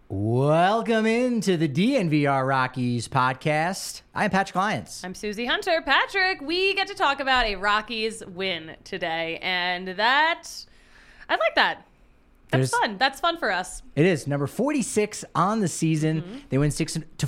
Welcome into the DNVR Rockies podcast. I'm Patrick Lyons. I'm Susie Hunter. Patrick, we get to talk about a Rockies win today, and I like that. That's fun. That's fun for us. It is number 46 on the season. Mm-hmm. They win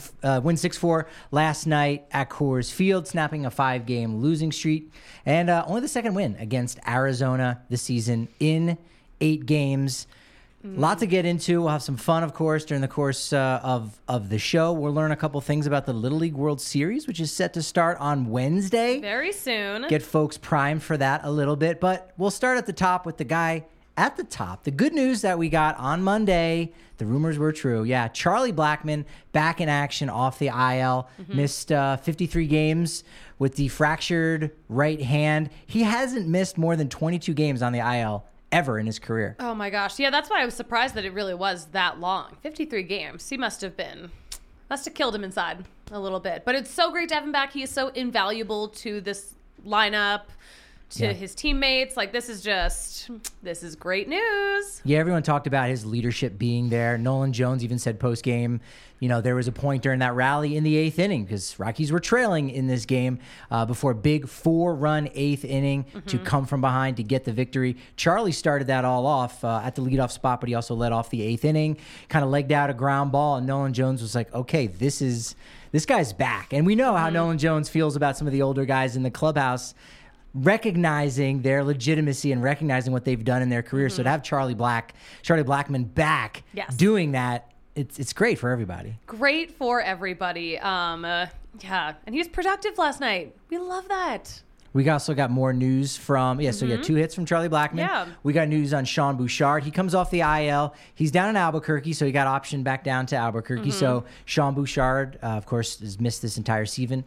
6-4 last night at Coors Field, snapping a 5-game losing streak, and only the second win against Arizona this season in 8 games. Lot to get into. We'll have some fun, of course, during the course of the show. We'll learn a couple things about the Little League World Series, which is set to start on Wednesday. Very soon. Get folks primed for that a little bit. But we'll start at the top with the guy at the top. The good news that we got on Monday, the rumors were true. Yeah, Charlie Blackmon back in action off the IL. Missed 53 games with the fractured right hand. He hasn't missed more than 22 games on the IL ever in his career. Oh my gosh. Yeah, that's why I was surprised that it really was that long. 53 games. He must have killed him inside a little bit. But it's so great to have him back. He is so invaluable to this lineup, to his teammates. Like, this is great news. Yeah, everyone talked about his leadership being there. Nolan Jones even said post-game, there was a point during that rally in the 8th inning because Rockies were trailing in this game before a big 4-run 8th inning to come from behind to get the victory. Charlie started that all off at the leadoff spot, but he also led off the 8th inning, kind of legged out a ground ball, and Nolan Jones was like, okay, this guy's back. And we know how Nolan Jones feels about some of the older guys in the clubhouse, recognizing their legitimacy and recognizing what they've done in their career. So to have Charlie Blackmon back doing that, it's great for everybody. Great for everybody. Yeah. And he was productive last night. We love that. We also got more news from, so we got 2 hits from Charlie Blackmon. Yeah. We got news on Sean Bouchard. He comes off the IL. He's down in Albuquerque, so he got optioned back down to Albuquerque. So Sean Bouchard, of course, has missed this entire season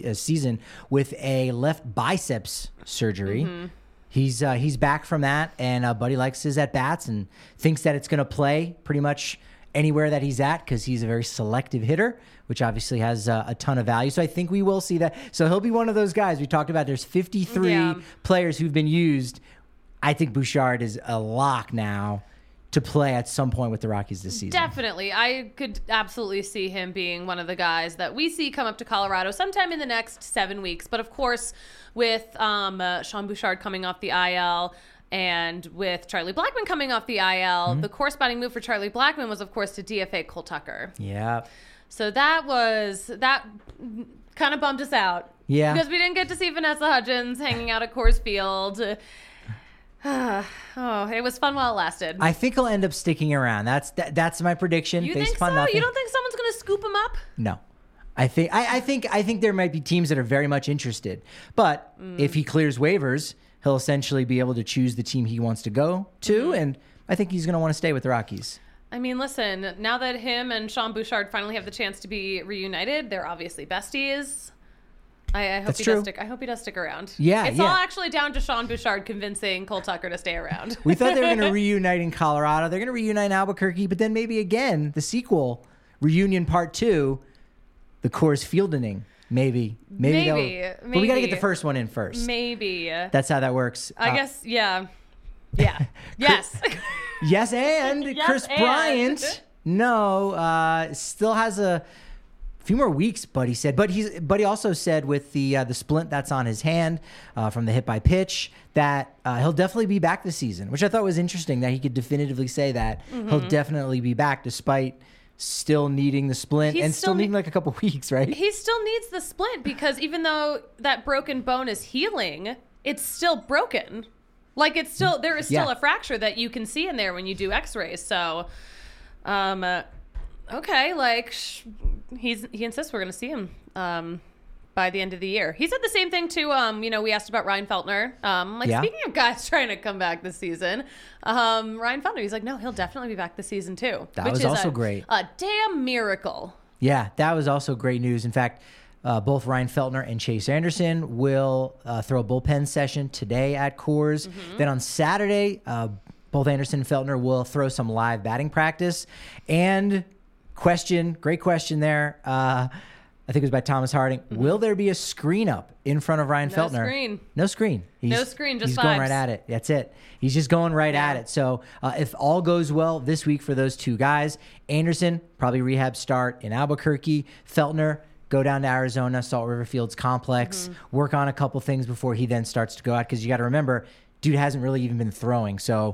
with a left biceps surgery. He's back from that, and Buddy likes his at-bats and thinks that it's going to play pretty much anywhere that he's at because he's a very selective hitter, which obviously has a ton of value. So I think we will see that. So he'll be one of those guys we talked about. There's 53 players who've been used. I think Bouchard is a lock now to play at some point with the Rockies this season. Definitely. I could absolutely see him being one of the guys that we see come up to Colorado sometime in the next 7 weeks. But of course, with Sean Bouchard coming off the IL, and with Charlie Blackmon coming off the IL, the corresponding move for Charlie Blackmon was, of course, to DFA Cole Tucker. Yeah. So that kind of bummed us out. Yeah. Because we didn't get to see Vanessa Hudgens hanging out at Coors Field. It was fun while it lasted. I think he'll end up sticking around. That's my prediction. You think so? Nothing. You don't think someone's going to scoop him up? No. I think there might be teams that are very much interested. But if he clears waivers, he'll essentially be able to choose the team he wants to go to, and I think he's going to want to stay with the Rockies. I mean, listen, now that him and Sean Bouchard finally have the chance to be reunited, they're obviously besties. I hope he does stick around. Yeah, it's all actually down to Sean Bouchard convincing Cole Tucker to stay around. We thought they were going to reunite in Colorado. They're going to reunite in Albuquerque, but then maybe again, the sequel, Reunion Part 2, the Coors Field inning. Maybe. But we got to get the first one in first. Maybe. That's how that works. I guess, yeah. Yeah. Yes. Yes, and Chris Bryant, still has a few more weeks, Buddy said. But he also said with the splint that's on his hand from the hit by pitch that he'll definitely be back this season, which I thought was interesting that he could definitively say that he'll definitely be back despite still needing the splint and still needing like a couple weeks, right? He still needs the splint because even though that broken bone is healing, it's still broken. Like there is still a fracture that you can see in there when you do x-rays. So, okay, like he insists we're going to see him by the end of the year. He said the same thing too. We asked about Ryan Feltner. Speaking of guys trying to come back this season, Ryan Feltner, he's like, no, he'll definitely be back this season too. That was also great. A damn miracle. Yeah, that was also great news. In fact, both Ryan Feltner and Chase Anderson will throw a bullpen session today at Coors. Then on Saturday, both Anderson and Feltner will throw some live batting practice. And great question there. I think it was by Thomas Harding. Will there be a screen up in front of Ryan Feltner? Screen. No screen. No screen, just he's going vibes. right at it. That's it. He's just going right at it. So if all goes well this week for those two guys, Anderson, probably rehab start in Albuquerque. Feltner, go down to Arizona, Salt River Fields Complex, work on a couple things before he then starts to go out. Because you got to remember, dude hasn't really even been throwing. So,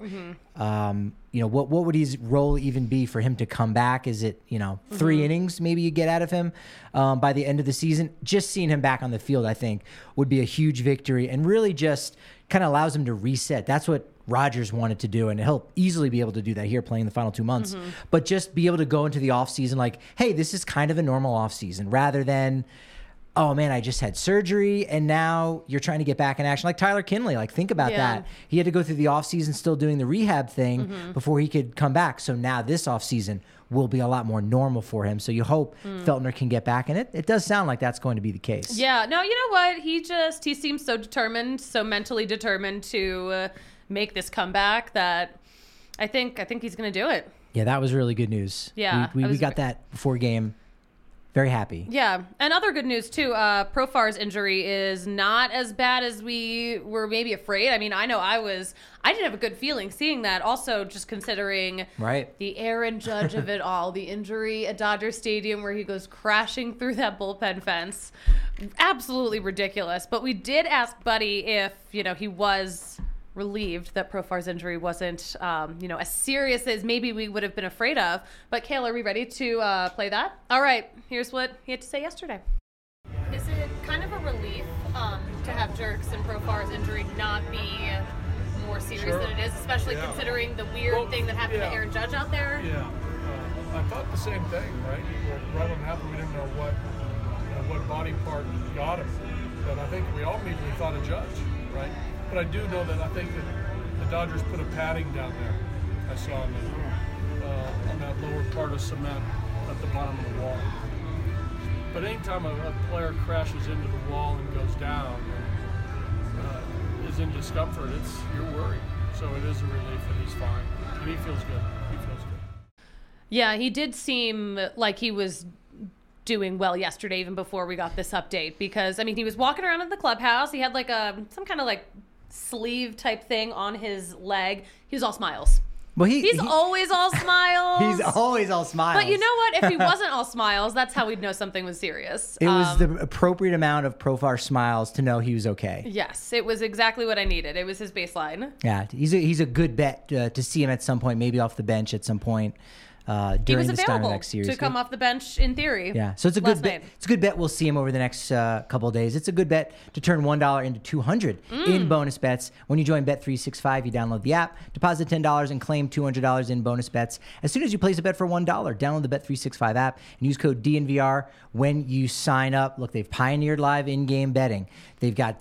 what would his role even be for him to come back? Is it, 3 innings maybe you get out of him by the end of the season? Just seeing him back on the field, I think, would be a huge victory and really just kind of allows him to reset. That's what Rodgers wanted to do, and he'll easily be able to do that here playing the final 2 months. But just be able to go into the offseason like, hey, this is kind of a normal offseason rather than, oh man, I just had surgery and now you're trying to get back in action. Like Tyler Kinley, like think about that. He had to go through the offseason still doing the rehab thing before he could come back. So now this offseason will be a lot more normal for him. So you hope Feltner can get back. And it does sound like that's going to be the case. Yeah. No, you know what? He seems so determined, so mentally determined to make this comeback that I think he's going to do it. Yeah, that was really good news. Yeah. We got that before game. Very happy. Yeah. And other good news, too. Profar's injury is not as bad as we were maybe afraid. I mean, I know I didn't have a good feeling seeing that. Also, just considering the Aaron Judge of it all, the injury at Dodger Stadium where he goes crashing through that bullpen fence. Absolutely ridiculous. But we did ask Buddy if, he was relieved that Profar's injury wasn't, as serious as maybe we would have been afraid of. But, Kale, are we ready to play that? All right. Here's what he had to say yesterday. Is it kind of a relief to have Jerks and Profar's injury not be more serious than it is, especially considering the weird thing that happened to Aaron Judge out there? Yeah. I thought the same thing, right? Right when it happened, we didn't know what body part got him. But I think we all immediately thought of Judge, right? But I do know that I think that the Dodgers put a padding down there. I saw on that lower part of cement at the bottom of the wall. But anytime a player crashes into the wall and goes down and is in discomfort, you're worried. So it is a relief that he's fine. And he feels good. Yeah, he did seem like he was doing well yesterday, even before we got this update. Because, he was walking around in the clubhouse. He had some kind of sleeve type thing on his leg. He was all smiles. Well, he's always all smiles. He's always all smiles. But you know what? If he wasn't all smiles, that's how we'd know something was serious. It was the appropriate amount of Profar smiles to know he was okay. Yes, it was exactly what I needed. It was his baseline. Yeah, he's a good bet to see him at some point, maybe off the bench at some point. During the start of the next series. He was available to come off the bench in theory. Yeah, so it's a good bet. It's a good bet. We'll see him over the next couple of days. It's a good bet to turn $1 into $200 in bonus bets. When you join Bet365, you download the app, deposit $10, and claim $200 in bonus bets. As soon as you place a bet for $1, download the Bet365 app and use code DNVR when you sign up. Look, they've pioneered live in-game betting. They've got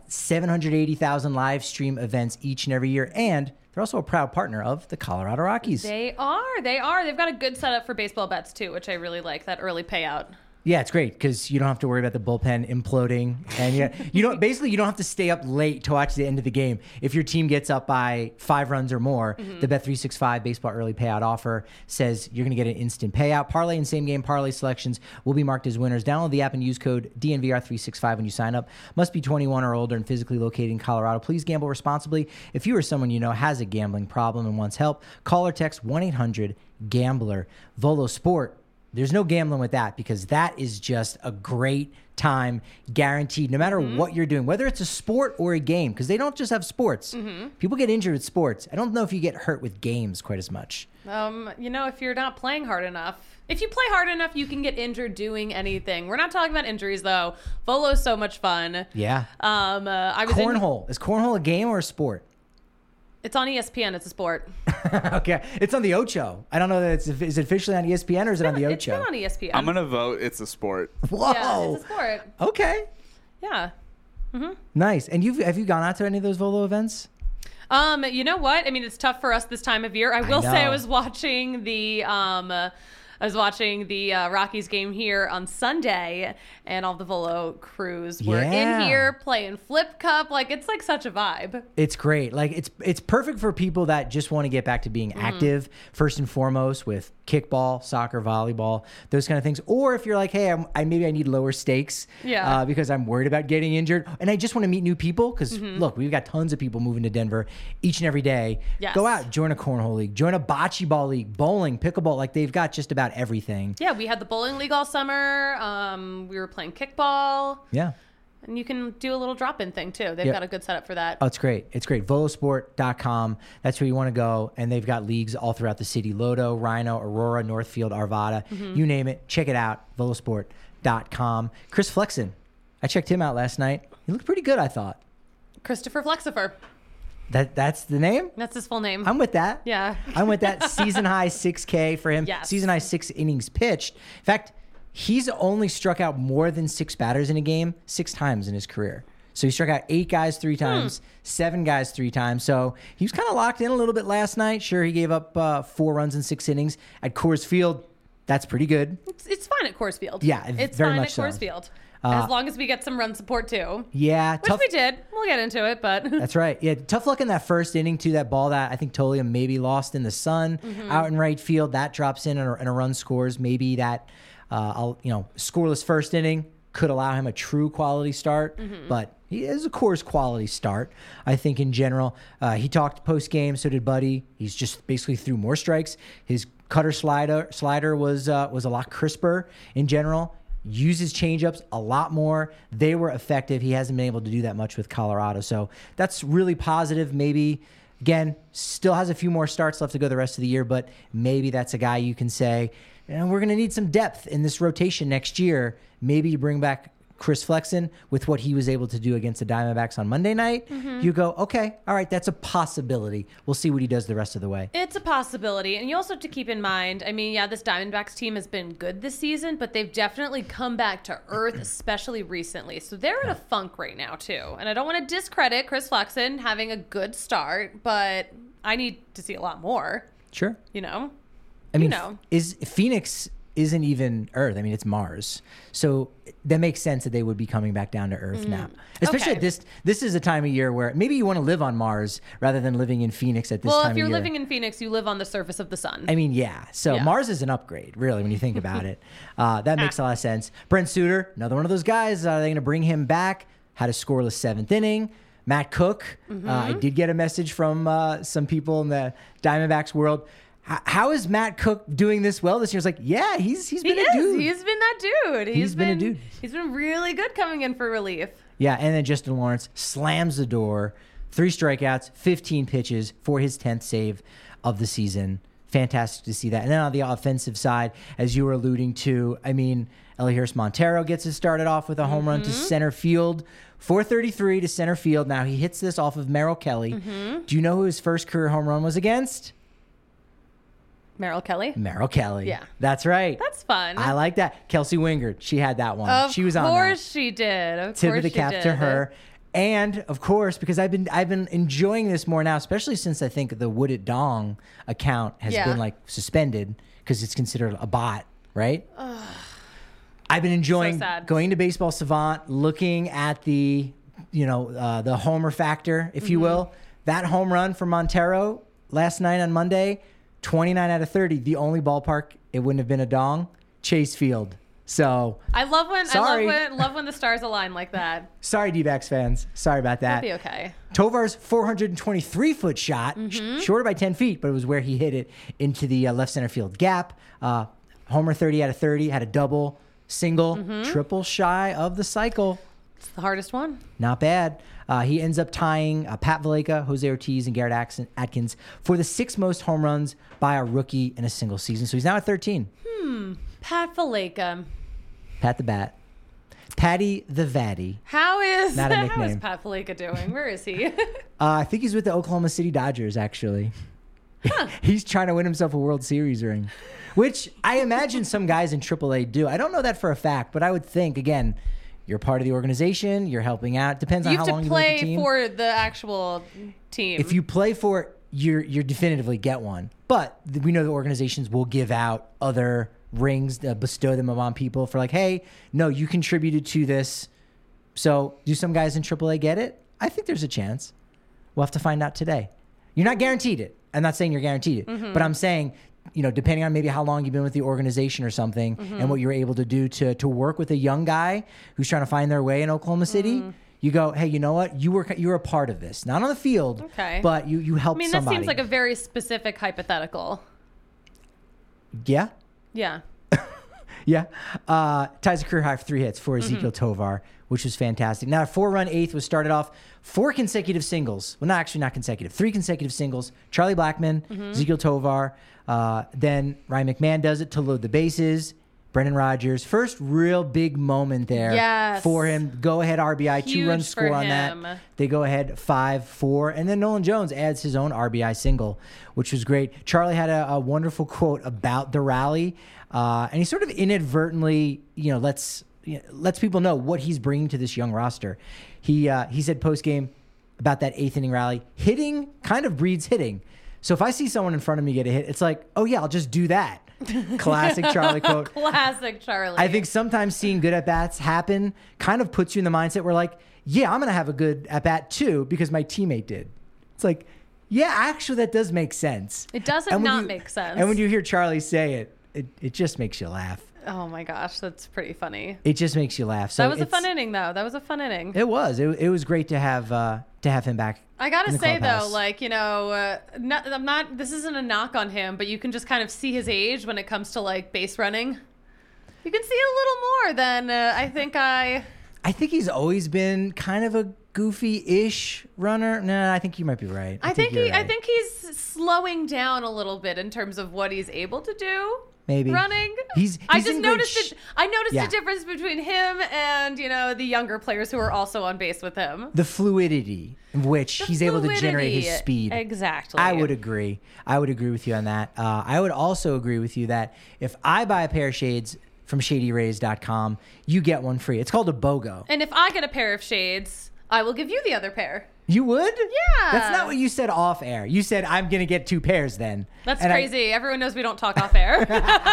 780,000 live stream events each and every year, and they're also a proud partner of the Colorado Rockies. They are. They've got a good setup for baseball bets, too, which I really like, that early payout. Yeah, it's great because you don't have to worry about the bullpen imploding, and you don't have to stay up late to watch the end of the game. If your team gets up by 5 runs or more, the Bet365 baseball early payout offer says you're going to get an instant payout. Parlay and same game parlay selections will be marked as winners. Download the app and use code DNVR365 when you sign up. Must be 21 or older and physically located in Colorado. Please gamble responsibly. If you or someone you know has a gambling problem and wants help, call or text 1-800-GAMBLER. Volo Sport. There's no gambling with that because that is just a great time guaranteed no matter what you're doing, whether it's a sport or a game, because they don't just have sports. People get injured with sports. I don't know if you get hurt with games quite as much. If you're not playing hard enough. If you play hard enough, you can get injured doing anything. We're not talking about injuries, though. Volo's so much fun. Yeah. Cornhole. Is cornhole a game or a sport? It's on ESPN. It's a sport. Okay. It's on the Ocho. I don't know that is it officially on ESPN or is it on the Ocho? It's been on ESPN. I'm going to vote it's a sport. Whoa. Yeah, it's a sport. Okay. Yeah. Nice. And have you gone out to any of those Volo events? You know what? It's tough for us this time of year. I will say I was watching the I was watching the Rockies game here on Sunday, and all the Volo crews were Yeah. in here playing Flip Cup. Like, it's like such a vibe. It's great. Like it's perfect for people that just want to get back to being active first and foremost with kickball, soccer, volleyball, those kind of things. Or if you're like, hey, maybe I need lower stakes because I'm worried about getting injured and I just want to meet new people because look, we've got tons of people moving to Denver each and every day. Yes. Go out, join a cornhole league, join a bocce ball league, bowling, pickleball. Like they've got just about everything. Yeah, we had the bowling league all summer. We were playing kickball. Yeah. And you can do a little drop-in thing, too. They've got a good setup for that. Oh, it's great. It's great. Volosport.com. That's where you want to go. And they've got leagues all throughout the city. Lodo, Rhino, Aurora, Northfield, Arvada. You name it. Check it out. Volosport.com. Chris Flexen. I checked him out last night. He looked pretty good, I thought. Christopher Flexifer. That's the name? That's his full name. I'm with that. Yeah. I'm with that. Season high 6K for him. Yes. Season high 6 innings pitched. In fact, he's only struck out more than 6 batters in a game 6 times in his career. So he struck out 8 guys 3 times, 7 guys 3 times. So he was kind of locked in a little bit last night. Sure, he gave up 4 runs in 6 innings. At Coors Field, that's pretty good. It's fine at Coors Field. Yeah, it's very fine much at so. Coors Field. As long as we get some run support, too. Yeah. Which we did. We'll get into it, but... That's right. Yeah, tough luck in that first inning, too. That ball that I think Tolia maybe lost in the sun out in right field. That drops in and a run scores. Maybe that, scoreless first inning could allow him a true quality start. But he is a Coors quality start, I think, in general. He talked post-game, so did Buddy. He's just basically threw more strikes. His cutter slider was a lot crisper in general. Uses changeups a lot more. They were effective. He hasn't been able to do that much with Colorado. So that's really positive. Maybe, again, still has a few more starts left to go the rest of the year, but maybe that's a guy you can say, we're going to need some depth in this rotation next year. Maybe you bring back Chris Flexen with what he was able to do against the Diamondbacks on Monday night. You go, okay, all right, that's a possibility. We'll see what he does the rest of the way. It's a possibility. And you also have to keep in mind, this Diamondbacks team has been good this season, but they've definitely come back to earth, especially recently. So they're in a funk right now, too. And I don't want to discredit Chris Flexen having a good start, but I need to see a lot more. Sure. I mean, is Phoenix isn't even Earth. I mean, it's Mars. So that makes sense that they would be coming back down to Earth now. Especially at this is a time of year where maybe you want to live on Mars rather than living in Phoenix at this time of year. Well, if you're living in Phoenix, you live on the surface of the sun. I mean, yeah. So Mars is an upgrade, really, when you think about it. That makes a lot of sense. Brent Suter, another one of those guys. Are they going to bring him back? Had a scoreless 7th inning. Matt Cook. I did get a message from some people in the Diamondbacks world. How is Matt Cook doing this well this year? It's like, yeah, he's been a dude. He's been that dude. He's been a dude. He's been really good coming in for relief. Yeah, and then Justin Lawrence slams the door. 3 strikeouts, 15 pitches for his 10th save of the season. Fantastic to see that. And then on the offensive side, as you were alluding to, Elihuris Montero gets it started off with a home run to center field. 433 to center field. Now he hits this off of Merrill Kelly. Do you know who his first career home run was against? Merrill Kelly? Merrill Kelly. Yeah. That's right. That's fun. I like that. Kelsey Wingard. She had that one. She was on that. Of course she did. Tip of the cap to her. And of course, because I've been enjoying this more now, especially since I think the Would It Dong account has been suspended because it's considered a bot, right? I've been enjoying going to Baseball Savant, looking at the homer factor, if you will. That home run from Montero last night on Monday, 29 out of 30. The only ballpark it wouldn't have been a dong, Chase Field. So I love when the stars align like that. Sorry, D-backs fans. Sorry about that. That'll be okay. Tovar's 423-foot shot, shorter by 10 feet, but it was where he hit it into the left center field gap. Homer 30 out of 30, had a double, single, triple shy of the cycle. It's the hardest one. Not bad. He ends up tying Pat Valaika, Jose Ortiz, and Garrett Atkins for the 6th most home runs by a rookie in a single season. So he's now at 13. Pat Valaika. Pat the Bat. Patty the Vatty. How is Not a nickname. How is Pat Valaika doing? Where is he? I think he's with the Oklahoma City Dodgers, actually. He's trying to win himself a World Series ring, which I imagine some guys in AAA do. I don't know that for a fact, but I would think, again, you're part of the organization. You're helping out. Depends on how long you've been with the team. You have to play for the actual team. If you play for it, you're definitively get one. But we know the organizations will give out other rings, bestow them upon people for like, hey, no, you contributed to this. So do some guys in AAA get it? I think there's a chance. We'll have to find out today. You're not guaranteed it. I'm not saying you're guaranteed it, but I'm saying, depending on maybe how long you've been with the organization or something and what you're able to do to work with a young guy who's trying to find their way in Oklahoma City, you go, hey, you know what? You were a part of this. Not on the field, but you helped somebody. That seems like a very specific hypothetical. Yeah? Yeah. Yeah. Ties a career high for 3 hits for Ezequiel Tovar, which was fantastic. Now, a 4-run eighth was started off 4 consecutive singles. Well, not consecutive. 3 consecutive singles. Charlie Blackmon, Ezequiel Tovar. Then Ryan McMahon does it to load the bases. Brendan Rodgers. First real big moment there for him. Go-ahead RBI, Huge 2-run score on that. They go ahead 5-4. And then Nolan Jones adds his own RBI single, which was great. Charlie had a wonderful quote about the rally. And he sort of inadvertently, lets people know what he's bringing to this young roster. He said post-game about that 8th inning rally, hitting kind of breeds hitting. So if I see someone in front of me get a hit, it's like, oh yeah, I'll just do that. Classic Charlie quote. Classic Charlie. I think sometimes seeing good at-bats happen kind of puts you in the mindset where like, yeah, I'm going to have a good at-bat too because my teammate did. It's like, yeah, actually that does make sense. It doesn't not make sense. And when you hear Charlie say it, it just makes you laugh. Oh my gosh, that's pretty funny. It just makes you laugh. So that was a fun inning, though. That was a fun inning. It was. It was great to have him back. I gotta say clubhouse. though, this isn't a knock on him, but you can just kind of see his age when it comes to like base running. You can see a little more than I think. I think he's always been kind of a goofy-ish runner. No, I think you might be right. I think he's slowing down a little bit in terms of what he's able to do. Maybe running. I noticed the difference between him and the younger players who are also on base with him. The fluidity in which he's able to generate his speed. Exactly. I would agree. with you on that. I would also agree with you that if I buy a pair of shades from ShadyRays.com, you get one free. It's called a BOGO. And if I get a pair of shades, I will give you the other pair. You would? Yeah. That's not what you said off air. You said, I'm going to get 2 pairs then. That's crazy. Everyone knows we don't talk off air.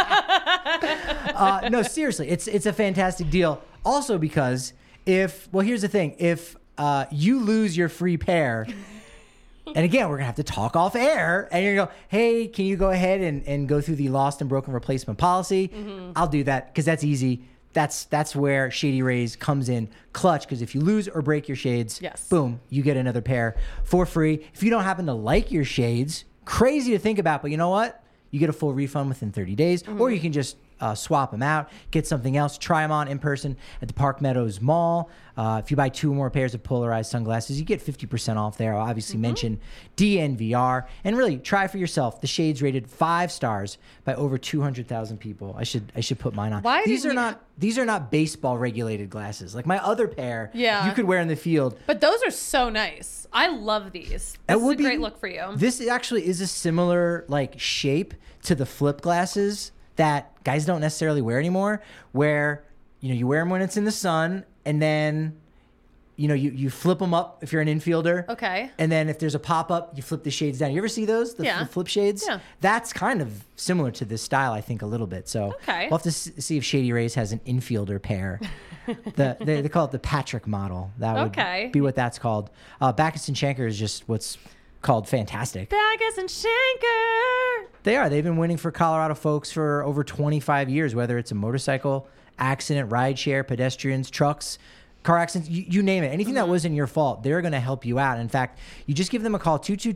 No, seriously. It's a fantastic deal. Also because here's the thing. If you lose your free pair, and again, we're going to have to talk off air, and you're going to go, hey, can you go ahead and go through the lost and broken replacement policy? I'll do that because that's easy. That's where Shady Rays comes in clutch, because if you lose or break your shades, boom, you get another pair for free. If you don't happen to like your shades, crazy to think about, but you know what? You get a full refund within 30 days, or you can just swap them out, get something else, try them on in person at the Park Meadows Mall. If you buy 2 or more pairs of polarized sunglasses, you get 50% off there. I'll obviously mention DNVR. And really, try for yourself. The shades rated 5 stars by over 200,000 people. I should put mine on. These are not baseball regulated glasses. Like my other pair, you could wear in the field. But those are so nice. I love these. This is a great look for you. This actually is a similar shape to the flip glasses that guys don't necessarily wear anymore, where you wear them when it's in the sun, and then you flip them up if you're an infielder. Okay. And then if there's a pop-up, you flip the shades down. You ever see those? The flip shades? Yeah. That's kind of similar to this style, I think, a little bit. So we'll have to see if Shady Rays has an infielder pair. They call it the Patrick model. That would be what that's called. Backus and Schenker is just what's called fantastic. Backus and Schenker. They are. They've been winning for Colorado folks for over 25 years, whether it's a motorcycle accident, rideshare, pedestrians, trucks, car accidents, you name it. Anything that wasn't your fault, they're going to help you out. In fact, you just give them a call,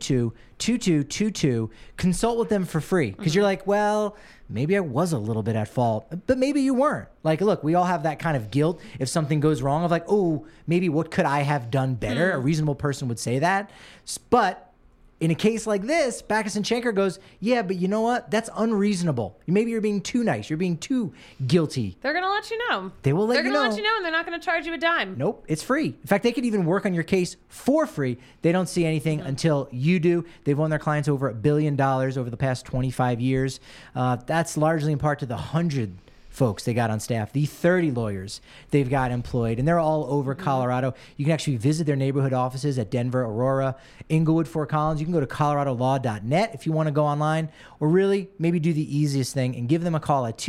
222-2222. Consult with them for free, because you're like, well, maybe I was a little bit at fault, but maybe you weren't. Like, look, we all have that kind of guilt if something goes wrong of like, oh, maybe what could I have done better? A reasonable person would say that. But in a case like this, Backus and Schenker goes, yeah, but you know what? That's unreasonable. Maybe you're being too nice. You're being too guilty. They're going to let you know. They will let you know. They're going to let you know, and they're not going to charge you a dime. Nope, it's free. In fact, they could even work on your case for free. They don't see anything until you do. They've won their clients over $1 billion over the past 25 years. That's largely in part to the 100 folks they got on staff, the 30 lawyers they've got employed, and they're all over Colorado. You can actually visit their neighborhood offices at Denver, Aurora, Inglewood, Fort Collins. You can go to coloradolaw.net if you want to go online, or really maybe do the easiest thing and give them a call at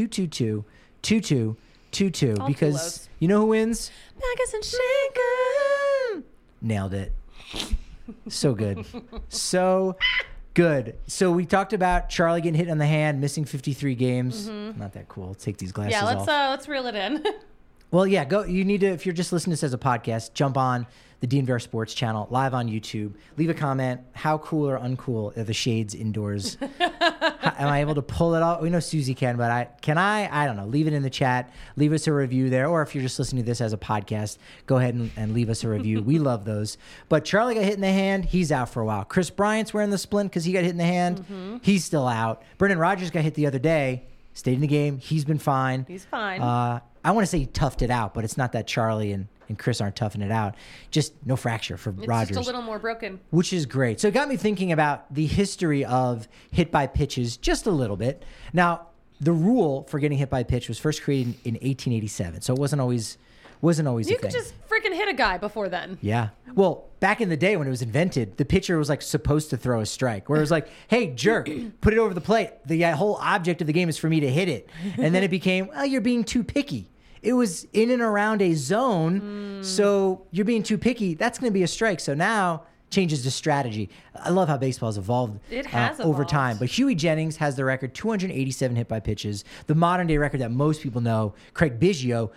222-2222 because you know who wins? Magus and Shaker. Nailed it. So good. So good. So we talked about Charlie getting hit on the hand, missing 53 games. Not that cool. Let's take these glasses off. Let's reel it in. Well, yeah, go. You need to, if you're just listening to this as a podcast, jump on the DNVR Sports channel, live on YouTube. Leave a comment. How cool or uncool are the shades indoors? Am I able to pull it off? We know Susie can, but I don't know. Leave it in the chat. Leave us a review there. Or if you're just listening to this as a podcast, go ahead and leave us a review. We love those. But Charlie got hit in the hand. He's out for a while. Chris Bryant's wearing the splint because he got hit in the hand. He's still out. Brendan Rodgers got hit the other day. Stayed in the game. He's been fine. He's fine. I want to say he toughed it out, but it's not that Charlie and Chris aren't toughing it out. Just no fracture for Rodgers. It's just a little more broken. Which is great. So it got me thinking about the history of hit by pitches just a little bit. Now, the rule for getting hit by pitch was first created in 1887, so it wasn't always a thing. You could just freaking hit a guy before then. Yeah. Well, back in the day when it was invented, the pitcher was like supposed to throw a strike, where it was like, hey, jerk, put it over the plate. The whole object of the game is for me to hit it. And then it became, well, you're being too picky. It was in and around a zone, so you're being too picky. That's going to be a strike. So now changes to strategy. I love how baseball has evolved. It has over evolved. time. But Huey Jennings has the record, 287 hit by pitches. The modern day record that most people know, Craig Biggio,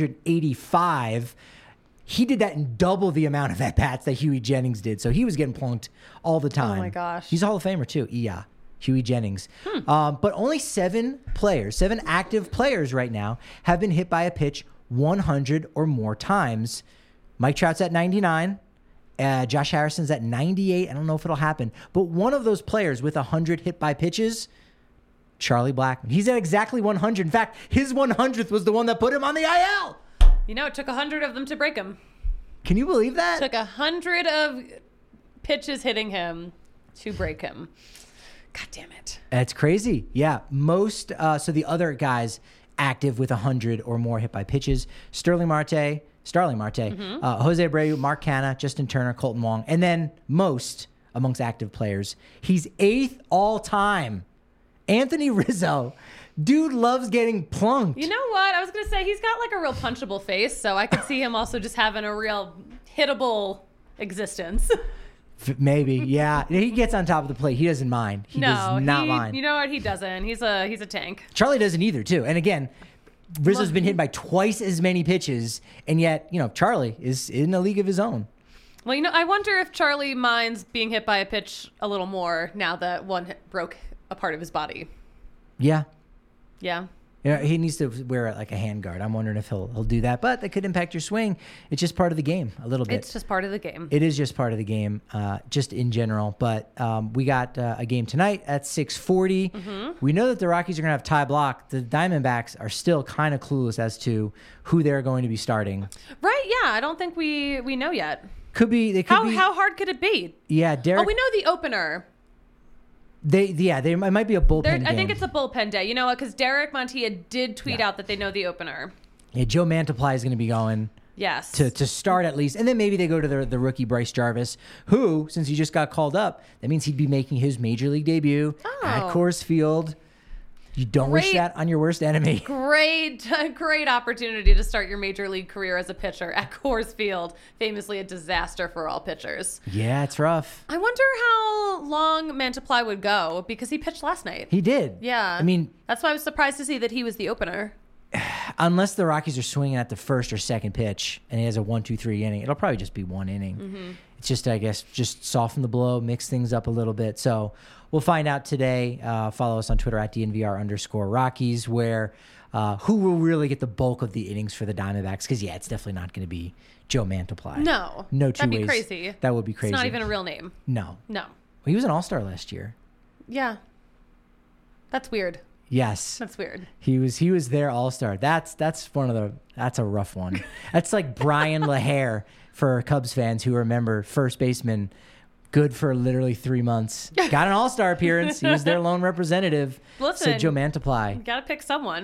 285. He did that in double the amount of at-bats that Huey Jennings did. So he was getting plunked all the time. Oh, my gosh. He's a Hall of Famer, too. Yeah. Huey Jennings. But only 7 active players right now have been hit by a pitch 100 or more times. Mike Trout's at 99. Josh Harrison's at 98. I don't know if it'll happen. But one of those players with 100 hit by pitches, Charlie Blackmon. He's at exactly 100. In fact, his 100th was the one that put him on the IL. You know, it took 100 of them to break him. Can you believe that? It took 100 of pitches hitting him to break him. God damn it. That's crazy. Yeah. Most, so the other guys active with 100 or more hit by pitches, Starling Marte, Jose Abreu, Mark Canha, Justin Turner, Colton Wong, and then most amongst active players, he's 8th all time. Anthony Rizzo. Dude loves getting plunked. You know what? I was going to say, he's got like a real punchable face, so I could see him also just having a real hittable existence. Maybe, yeah. He gets on top of the plate. He doesn't mind. He does not mind. You know what? He doesn't. He's a tank. Charlie doesn't either, too. And again, Rizzo's been hit by twice as many pitches, and yet, Charlie is in a league of his own. Well, I wonder if Charlie minds being hit by a pitch a little more now that one broke a part of his body. Yeah. Yeah. He needs to wear like a handguard. I'm wondering if he'll do that, but that could impact your swing. It's just part of the game a little bit. It's just part of the game. It is just part of the game, just in general. But we got a game tonight at 6:40. We know that the Rockies are going to have Ty Blach. The Diamondbacks are still kind of clueless as to who they're going to be starting. Right? Yeah. I don't think we know yet. Could be. They could be. How hard could it be? Yeah, Derek. Oh, we know the opener. It might be a bullpen game. I think it's a bullpen day. You know what? Because Derek Montilla did tweet out that they know the opener. Yeah, Joe Mantiply is going to be going. Yes. To start at least. And then maybe they go to the rookie Bryce Jarvis, who, since he just got called up, that means he'd be making his major league debut at Coors Field. You don't wish that on your worst enemy. Great opportunity to start your major league career as a pitcher at Coors Field, famously a disaster for all pitchers. Yeah, it's rough. I wonder how long Mantiply would go because he pitched last night. He did. Yeah. I mean, that's why I was surprised to see that he was the opener. Unless the Rockies are swinging at the first or second pitch and he has a 1-2-3 inning, it'll probably just be one inning. It's just, I guess, just soften the blow, mix things up a little bit. So we'll find out today. Follow us on Twitter at DNVR_Rockies, where who will really get the bulk of the innings for the Diamondbacks? Because, yeah, it's definitely not going to be Joe Mantiply. No two ways. That'd be crazy. That would be crazy. It's not even a real name. No. Well, he was an all-star last year. Yeah. That's weird. Yes. That's weird. He was their all-star. That's a rough one. That's like Brian LaHair for Cubs fans who remember, first baseman, good for literally 3 months. Got an all-star appearance. He was their lone representative. Listen, so Joe Mantiply. You got to pick someone.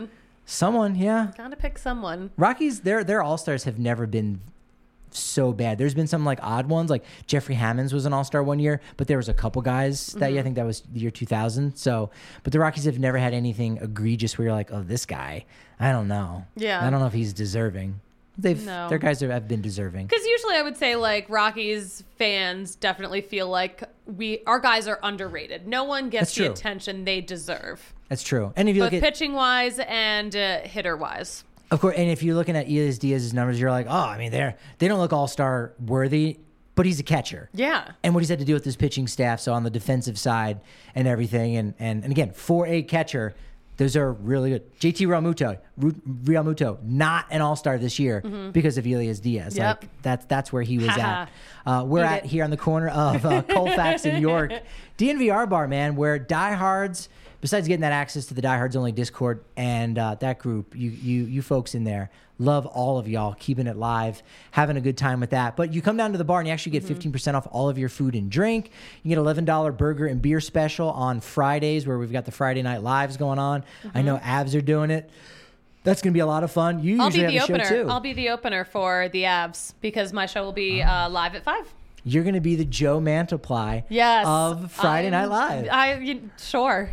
Someone, yeah. Gotta pick someone. Rockies, their all-stars have never been so bad. There's been some like odd ones, like Jeffrey Hammonds was an all-star one year, but there was a couple guys that year. I think that was the year 2000. So, but the Rockies have never had anything egregious where you're like, oh, this guy, I don't know. Yeah. I don't know if he's deserving. Their guys have been deserving. Because usually I would say like Rockies fans definitely feel like our guys are underrated. No one gets the attention they deserve. That's true. And if you look at pitching wise and hitter wise. Of course, and if you're looking at Elias Diaz's numbers, you're like, oh, I mean, they don't look all-star worthy, but he's a catcher. Yeah. And what he's had to do with his pitching staff, so on the defensive side and everything, and again, for a catcher, those are really good. JT Realmuto, not an all-star this year because of Elias Diaz. Yep. Like that's where he was at. We're at here on the corner of Colfax and York, DNVR bar, man, where diehards, besides getting that access to the Diehards Only Discord and that group, you folks in there, love all of y'all, keeping it live, having a good time with that. But you come down to the bar and you actually get 15% off all of your food and drink. You get $11 burger and beer special on Fridays, where we've got the Friday Night Lives going on. I know Avs are doing it. That's going to be a lot of fun. I'll be the opener. I'll be the opener for the Avs because my show will be live at 5. You're going to be the Joe Mantiply of Friday Night Live. Sure.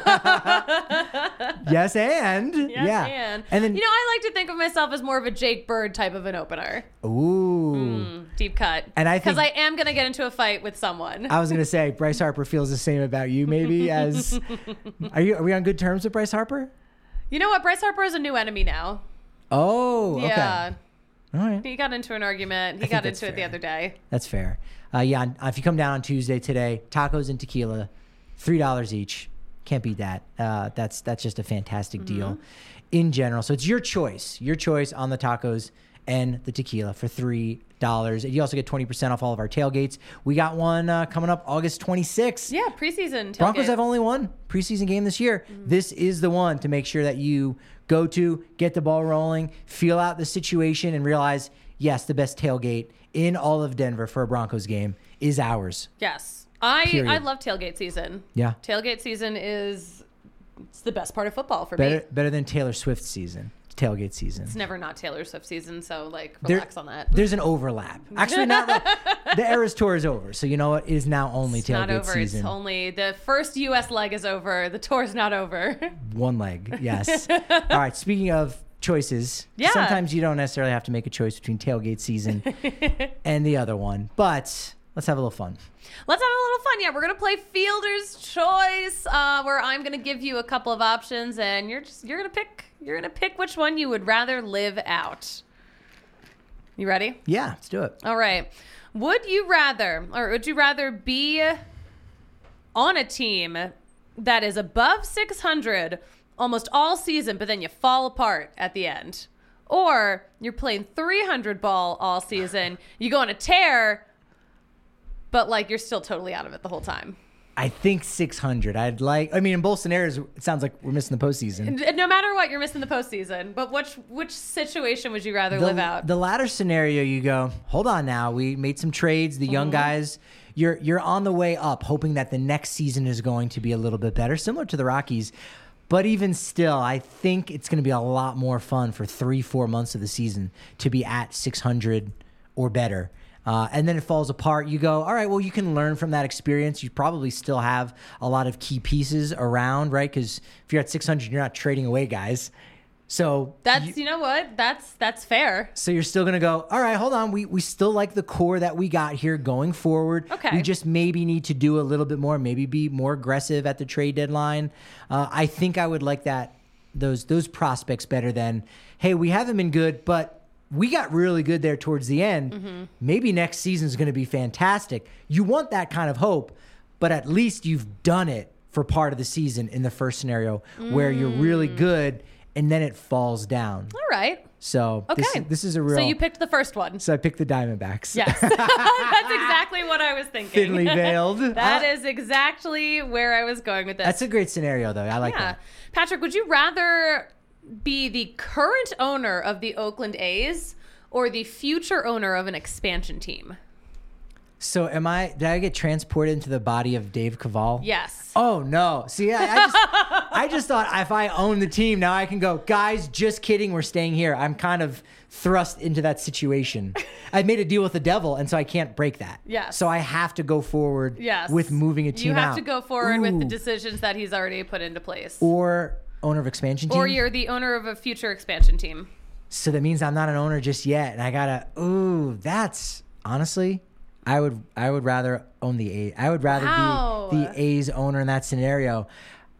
Yes, and. And then, I like to think of myself as more of a Jake Bird type of an opener. Ooh. Deep cut. And because I am going to get into a fight with someone. I was going to say, Bryce Harper feels the same about you, maybe, as... Are we on good terms with Bryce Harper? You know what? Bryce Harper is a new enemy now. Oh, okay. Yeah. All right. He got into an argument. He got into it the other day. That's fair. If you come down on Tuesday today, tacos and tequila, $3 each. Can't beat that. That's just a fantastic deal in general. So it's your choice on the tacos and the tequila for $3. And you also get 20% off all of our tailgates. We got one coming up August 26th. Yeah, preseason tailgate. Broncos have only one preseason game this year. This is the one to make sure that you go to, get the ball rolling, feel out the situation, and realize, yes, the best tailgate in all of Denver for a Broncos game is ours. Yes. I love tailgate season. Yeah. Tailgate season it's the best part of football for me. Better than Taylor Swift season. Tailgate season. It's never not Taylor Swift season, so relax on that. There's an overlap. Actually, not the Eras Tour is over, so you know what? It is now only tailgate not over. season. It's only the first U.S. leg is over. The tour's not over. One leg, yes. All right. Speaking of choices, sometimes you don't necessarily have to make a choice between tailgate season and the other one, but let's have a little fun. Let's have a little fun. Yeah, we're going to play Fielder's Choice, where I'm going to give you a couple of options, and you're going to pick which one you would rather live out. You ready? Yeah, let's do it. All right. Would you rather be on a team that is above 600 almost all season, but then you fall apart at the end? Or you're playing 300 ball all season, you go on a tear, but you're still totally out of it the whole time? I think 600. In both scenarios, it sounds like we're missing the postseason. No matter what, you're missing the postseason. But which situation would you rather live out? The latter scenario, you go, hold on now. We made some trades. The young guys, you're on the way up, hoping that the next season is going to be a little bit better, similar to the Rockies. But even still, I think it's going to be a lot more fun for 3-4 months of the season to be at 600 or better. And then it falls apart. You go, all right, well, you can learn from that experience. You probably still have a lot of key pieces around, right? Because if you're at 600, you're not trading away guys. So you know what? That's fair. So you're still going to go, all right, hold on. We still like the core that we got here going forward. Okay. We just maybe need to do a little bit more, maybe be more aggressive at the trade deadline. I think I would like those prospects better than, hey, we haven't been good, but we got really good there towards the end. Maybe next season is going to be fantastic. You want that kind of hope, but at least you've done it for part of the season in the first scenario where you're really good and then it falls down. All right. So this is a real... So you picked the first one. So I picked the Diamondbacks. Yes. That's exactly what I was thinking. Thinly veiled. That is exactly where I was going with this. That's a great scenario, though. I like that. Patrick, would you rather be the current owner of the Oakland A's or the future owner of an expansion team? So did I get transported into the body of Dave Cavall? Yes. Oh, no. See, I I just thought if I own the team, now I can go, guys, just kidding, we're staying here. I'm kind of thrust into that situation. I made a deal with the devil, and so I can't break that. Yes. So I have to go forward with moving a team out. You have to go forward with the decisions that he's already put into place. Or owner of expansion team. Or you're the owner of a future expansion team. So that means I'm not an owner just yet, and I gotta. That's honestly, I would rather own the A's. I would rather be the A's owner in that scenario.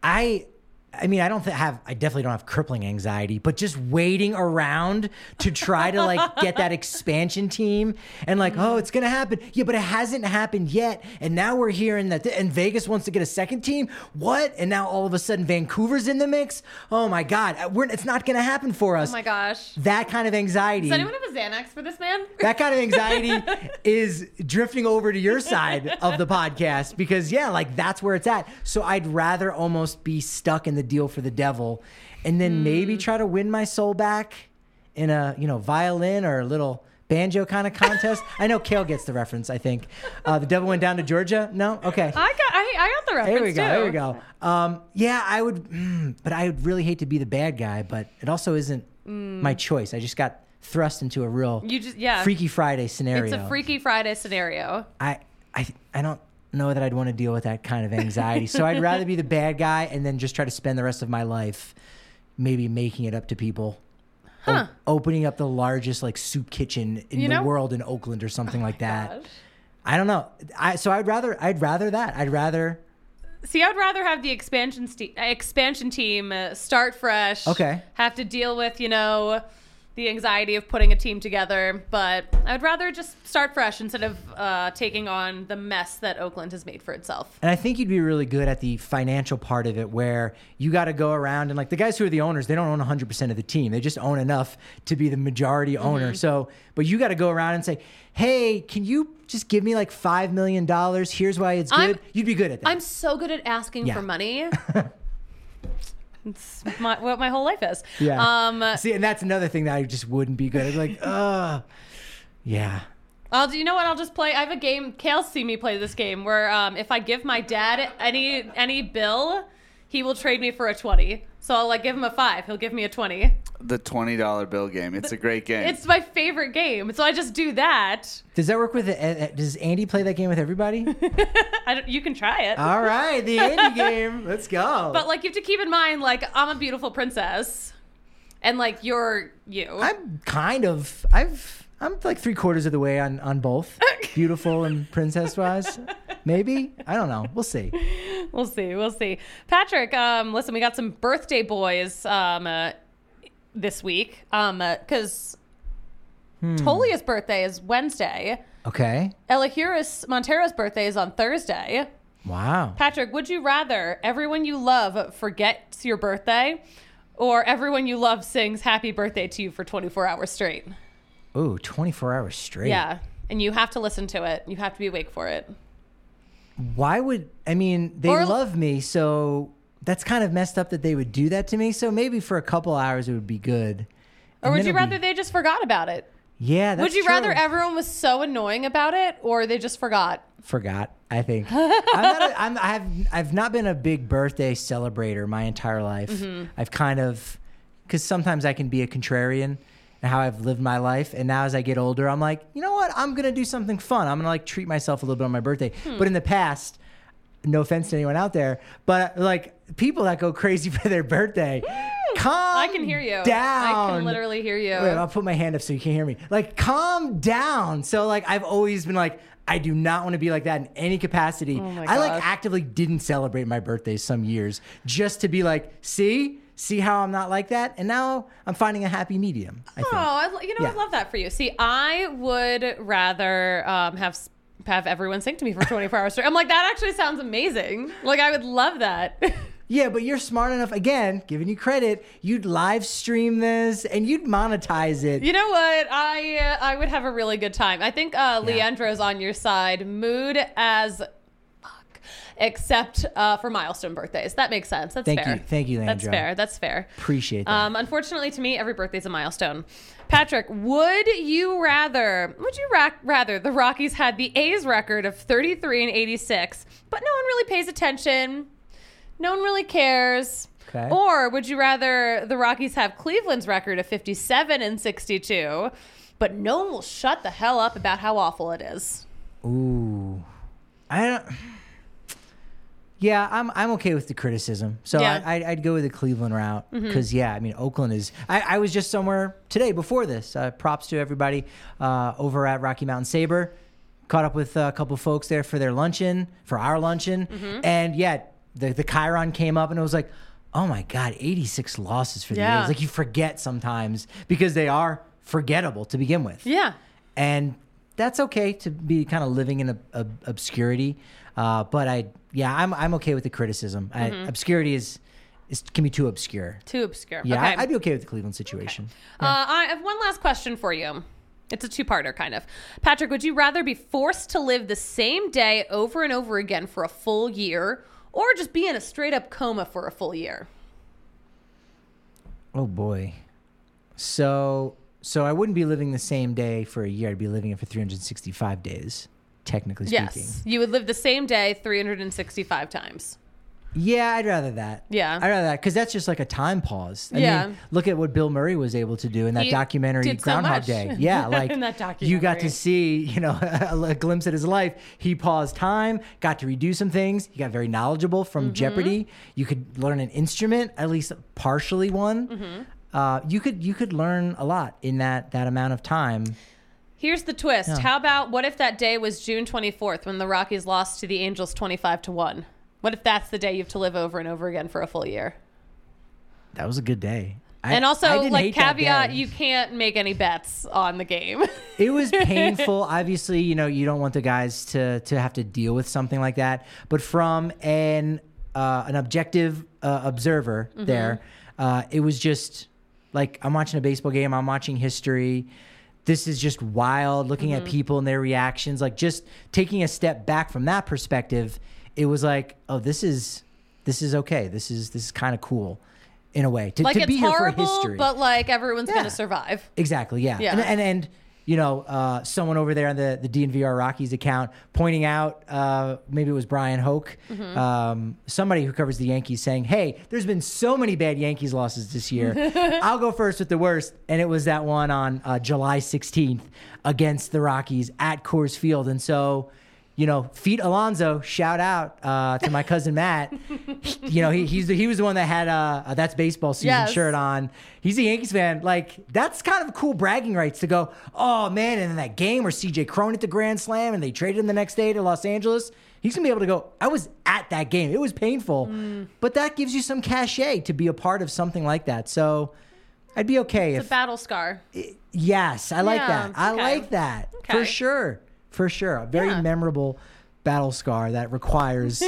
I mean, I definitely don't have crippling anxiety, but just waiting around to try to like get that expansion team and like, oh, it's going to happen. Yeah, but it hasn't happened yet. And now we're hearing that and Vegas wants to get a second team. What? And now all of a sudden Vancouver's in the mix. Oh my God. It's not going to happen for us. Oh my gosh. That kind of anxiety. Does anyone have a Xanax for this man? That kind of anxiety is drifting over to your side of the podcast because like that's where it's at. So I'd rather almost be stuck in the deal for the devil and then maybe try to win my soul back in a violin or a little banjo kind of contest. I know Kale gets the reference. I think the devil went down to Georgia. No, okay. I got the reference. There we go. Yeah, I would, but I would really hate to be the bad guy. But it also isn't my choice. I just got thrust into a real Freaky Friday scenario. It's a Freaky Friday scenario. I don't know that I'd want to deal with that kind of anxiety. So I'd rather be the bad guy and then just try to spend the rest of my life maybe making it up to people. Opening up the largest like soup kitchen in the world in Oakland or something like that. Gosh. I don't know. So I'd rather that. I'd rather have the expansion team start fresh. Okay. Have to deal with, the anxiety of putting a team together, but I'd rather just start fresh instead of taking on the mess that Oakland has made for itself. And I think you'd be really good at the financial part of it where you got to go around and like the guys who are the owners, they don't own 100% of the team. They just own enough to be the majority owner. So, but you got to go around and say, hey, can you just give me like $5 million? Here's why it's good. You'd be good at that. I'm so good at asking for money. It's what my whole life is. Yeah. See, and that's another thing that I just wouldn't be good at. Like, yeah. You know what? I'll just play. I have a game. Kale's seen me play this game where if I give my dad any bill, he will trade me for a 20. So I'll like give him a 5. He'll give me a 20. The $20 bill game. It's a great game. It's my favorite game. So I just do that. Does that work with does Andy play that game with everybody? You can try it. All right, the Andy game. Let's go. But like you have to keep in mind, like I'm a beautiful princess, and like you're you. I'm like 3/4 of the way on both, beautiful and princess wise. Maybe, I don't know. We'll see. We'll see. Patrick, listen, we got some birthday boys this week because Tolia's birthday is Wednesday. Okay. Elahuris Montero's birthday is on Thursday. Wow. Patrick, would you rather everyone you love forgets your birthday or everyone you love sings happy birthday to you for 24 hours straight? Ooh, 24 hours straight. Yeah, and you have to listen to it. You have to be awake for it. Why would, they love me, so that's kind of messed up that they would do that to me. So maybe for a couple hours it would be good. Or would you rather they just forgot about it? Yeah, that's Would you true. rather everyone was so annoying about it or they just forgot? Forgot, I think. I've not been a big birthday celebrator my entire life. Mm-hmm. I've kind of, because sometimes I can be a contrarian and how I've lived my life. And now as I get older, I'm like, you know what? I'm going to do something fun. I'm going to like treat myself a little bit on my birthday. But in the past, no offense to anyone out there, but like people that go crazy for their birthday, I can hear you. Down. I can literally hear you. Wait, I'll put my hand up so you can hear me. Like, calm down. So like, I've always been like, I do not want to be like that in any capacity. Oh my I like gosh. actively didn't celebrate my birthday some years just to be like, see how I'm not like that? And now I'm finding a happy medium, I think. I love that for you. See, I would rather have everyone sing to me for 24 hours straight. I'm like, that actually sounds amazing. Like, I would love that. Yeah, but you're smart enough, again, giving you credit, you'd live stream this and you'd monetize it. You know what? I would have a really good time. I think Leandra's on your side. Mood as fuck, except for milestone birthdays. That makes sense. That's fair. Thank you, Leandra. That's fair. Appreciate that. Unfortunately, to me, every birthday's a milestone. Patrick, would you rather the Rockies had the A's record of 33-86, but no one really pays attention? No one really cares. Okay. Or would you rather the Rockies have Cleveland's record of 57-62, but no one will shut the hell up about how awful it is? Ooh. I don't... Yeah, I'm okay with the criticism. So Yeah. I'd go with the Cleveland route because, Oakland is... I was just somewhere today before this. Props to everybody over at Rocky Mountain Sabre. Caught up with a couple folks there for our luncheon. And, the Chiron came up and it was like, oh, my God, 86 losses for the A's. Like, you forget sometimes because they are forgettable to begin with. Yeah. And that's okay to be kind of living in obscurity. But I'm okay with the criticism. Obscurity can be too obscure. Too obscure. Yeah, Okay. I'd be okay with the Cleveland situation. I have one last question for you. It's a two-parter, kind of. Patrick, would you rather be forced to live the same day over and over again for a full year, or just be in a straight-up coma for a full year? Oh boy. So I wouldn't be living the same day for a year. I'd be living it for 365 days, technically speaking. Yes. You would live the same day 365 times. Yeah, I'd rather that. Yeah. I'd rather that because that's just like a time pause. I Yeah. mean, look at what Bill Murray was able to do in that He documentary did so Groundhog much. Day. Yeah, like In that you got documentary. to see, a glimpse at his life. He paused time, got to redo some things. He got very knowledgeable from Jeopardy. You could learn an instrument, at least partially one. You could learn a lot in that amount of time. Here's the twist. Yeah. How about what if that day was June 24th when the Rockies lost to the Angels 25-1? What if that's the day you have to live over and over again for a full year? That was a good day. And I also, didn't like, hate that caveat, day. you can't make any bets on the game. It was painful. Obviously, you don't want the guys to have to deal with something like that. But from an objective observer there, it was just like I'm watching a baseball game. I'm watching history. This is just wild. Looking at people and their reactions, like just taking a step back from that perspective, it was like, oh, this is okay. This is kind of cool. In a way, to Like, be it's here for horrible, history. but, like, everyone's Yeah. going to survive. Exactly, yeah. Yeah. And someone over there on the DNVR Rockies account pointing out, maybe it was Brian Hoke, somebody who covers the Yankees saying, hey, there's been so many bad Yankees losses this year. I'll go first with the worst. And it was that one on July 16th against the Rockies at Coors Field. And so... Feet Alonso, shout out to my cousin Matt. He was the one that had That's Baseball Season Yes. shirt on. He's a Yankees fan. Like, that's kind of cool bragging rights to go, oh, man, and in that game where C.J. Cron hit the grand slam and they traded him the next day to Los Angeles, he's going to be able to go, I was at that game. It was painful. But that gives you some cachet to be a part of something like that. So I'd be okay It's a battle scar. Yes, I like Yeah, that. I okay. like that. Okay. For sure. A very Yeah. memorable battle scar that requires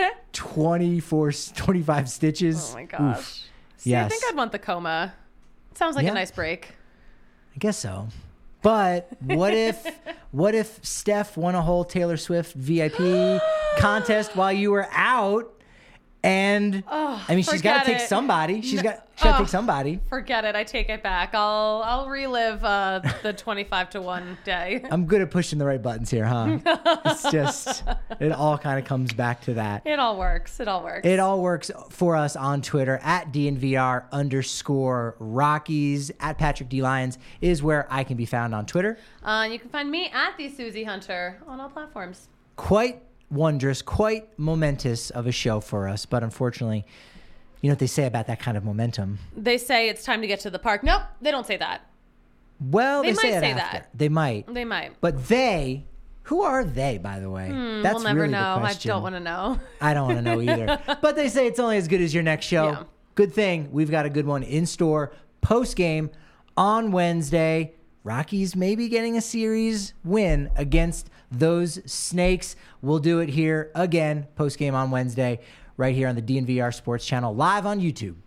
25 stitches. Oh, my gosh. Oof. See, I Yes. think I'd want the coma. Sounds like Yeah. a nice break. I guess so. But what if Steph won a whole Taylor Swift VIP contest while you were out? And she's got forget to take it. somebody. She's got to take somebody. Forget it. I take it back. I'll relive the 25-1 day. I'm good at pushing the right buttons here, huh? It's just, it all kind of comes back to that. It all works. It It all works for us on Twitter at DNVR_Rockies. At Patrick D. Lyons is where I can be found on Twitter. You can find me at the Susie Hunter on all platforms. Quite wondrous, quite momentous of a show for us, but unfortunately, you know what they say about that kind of momentum. They say it's time to get to the park. Nope, they don't say that. Well, They they say might it say after. that. They might. They might. But who are they, by the way? That's We'll never really know. the I question. don't want to know. I don't want to know either. But they say it's only as good as your next show. Yeah. Good thing we've got a good one in store post game on Wednesday. Rockies maybe getting a series win against those Snakes. We'll do it here again post game on Wednesday right here on the DNVR Sports Channel live on YouTube.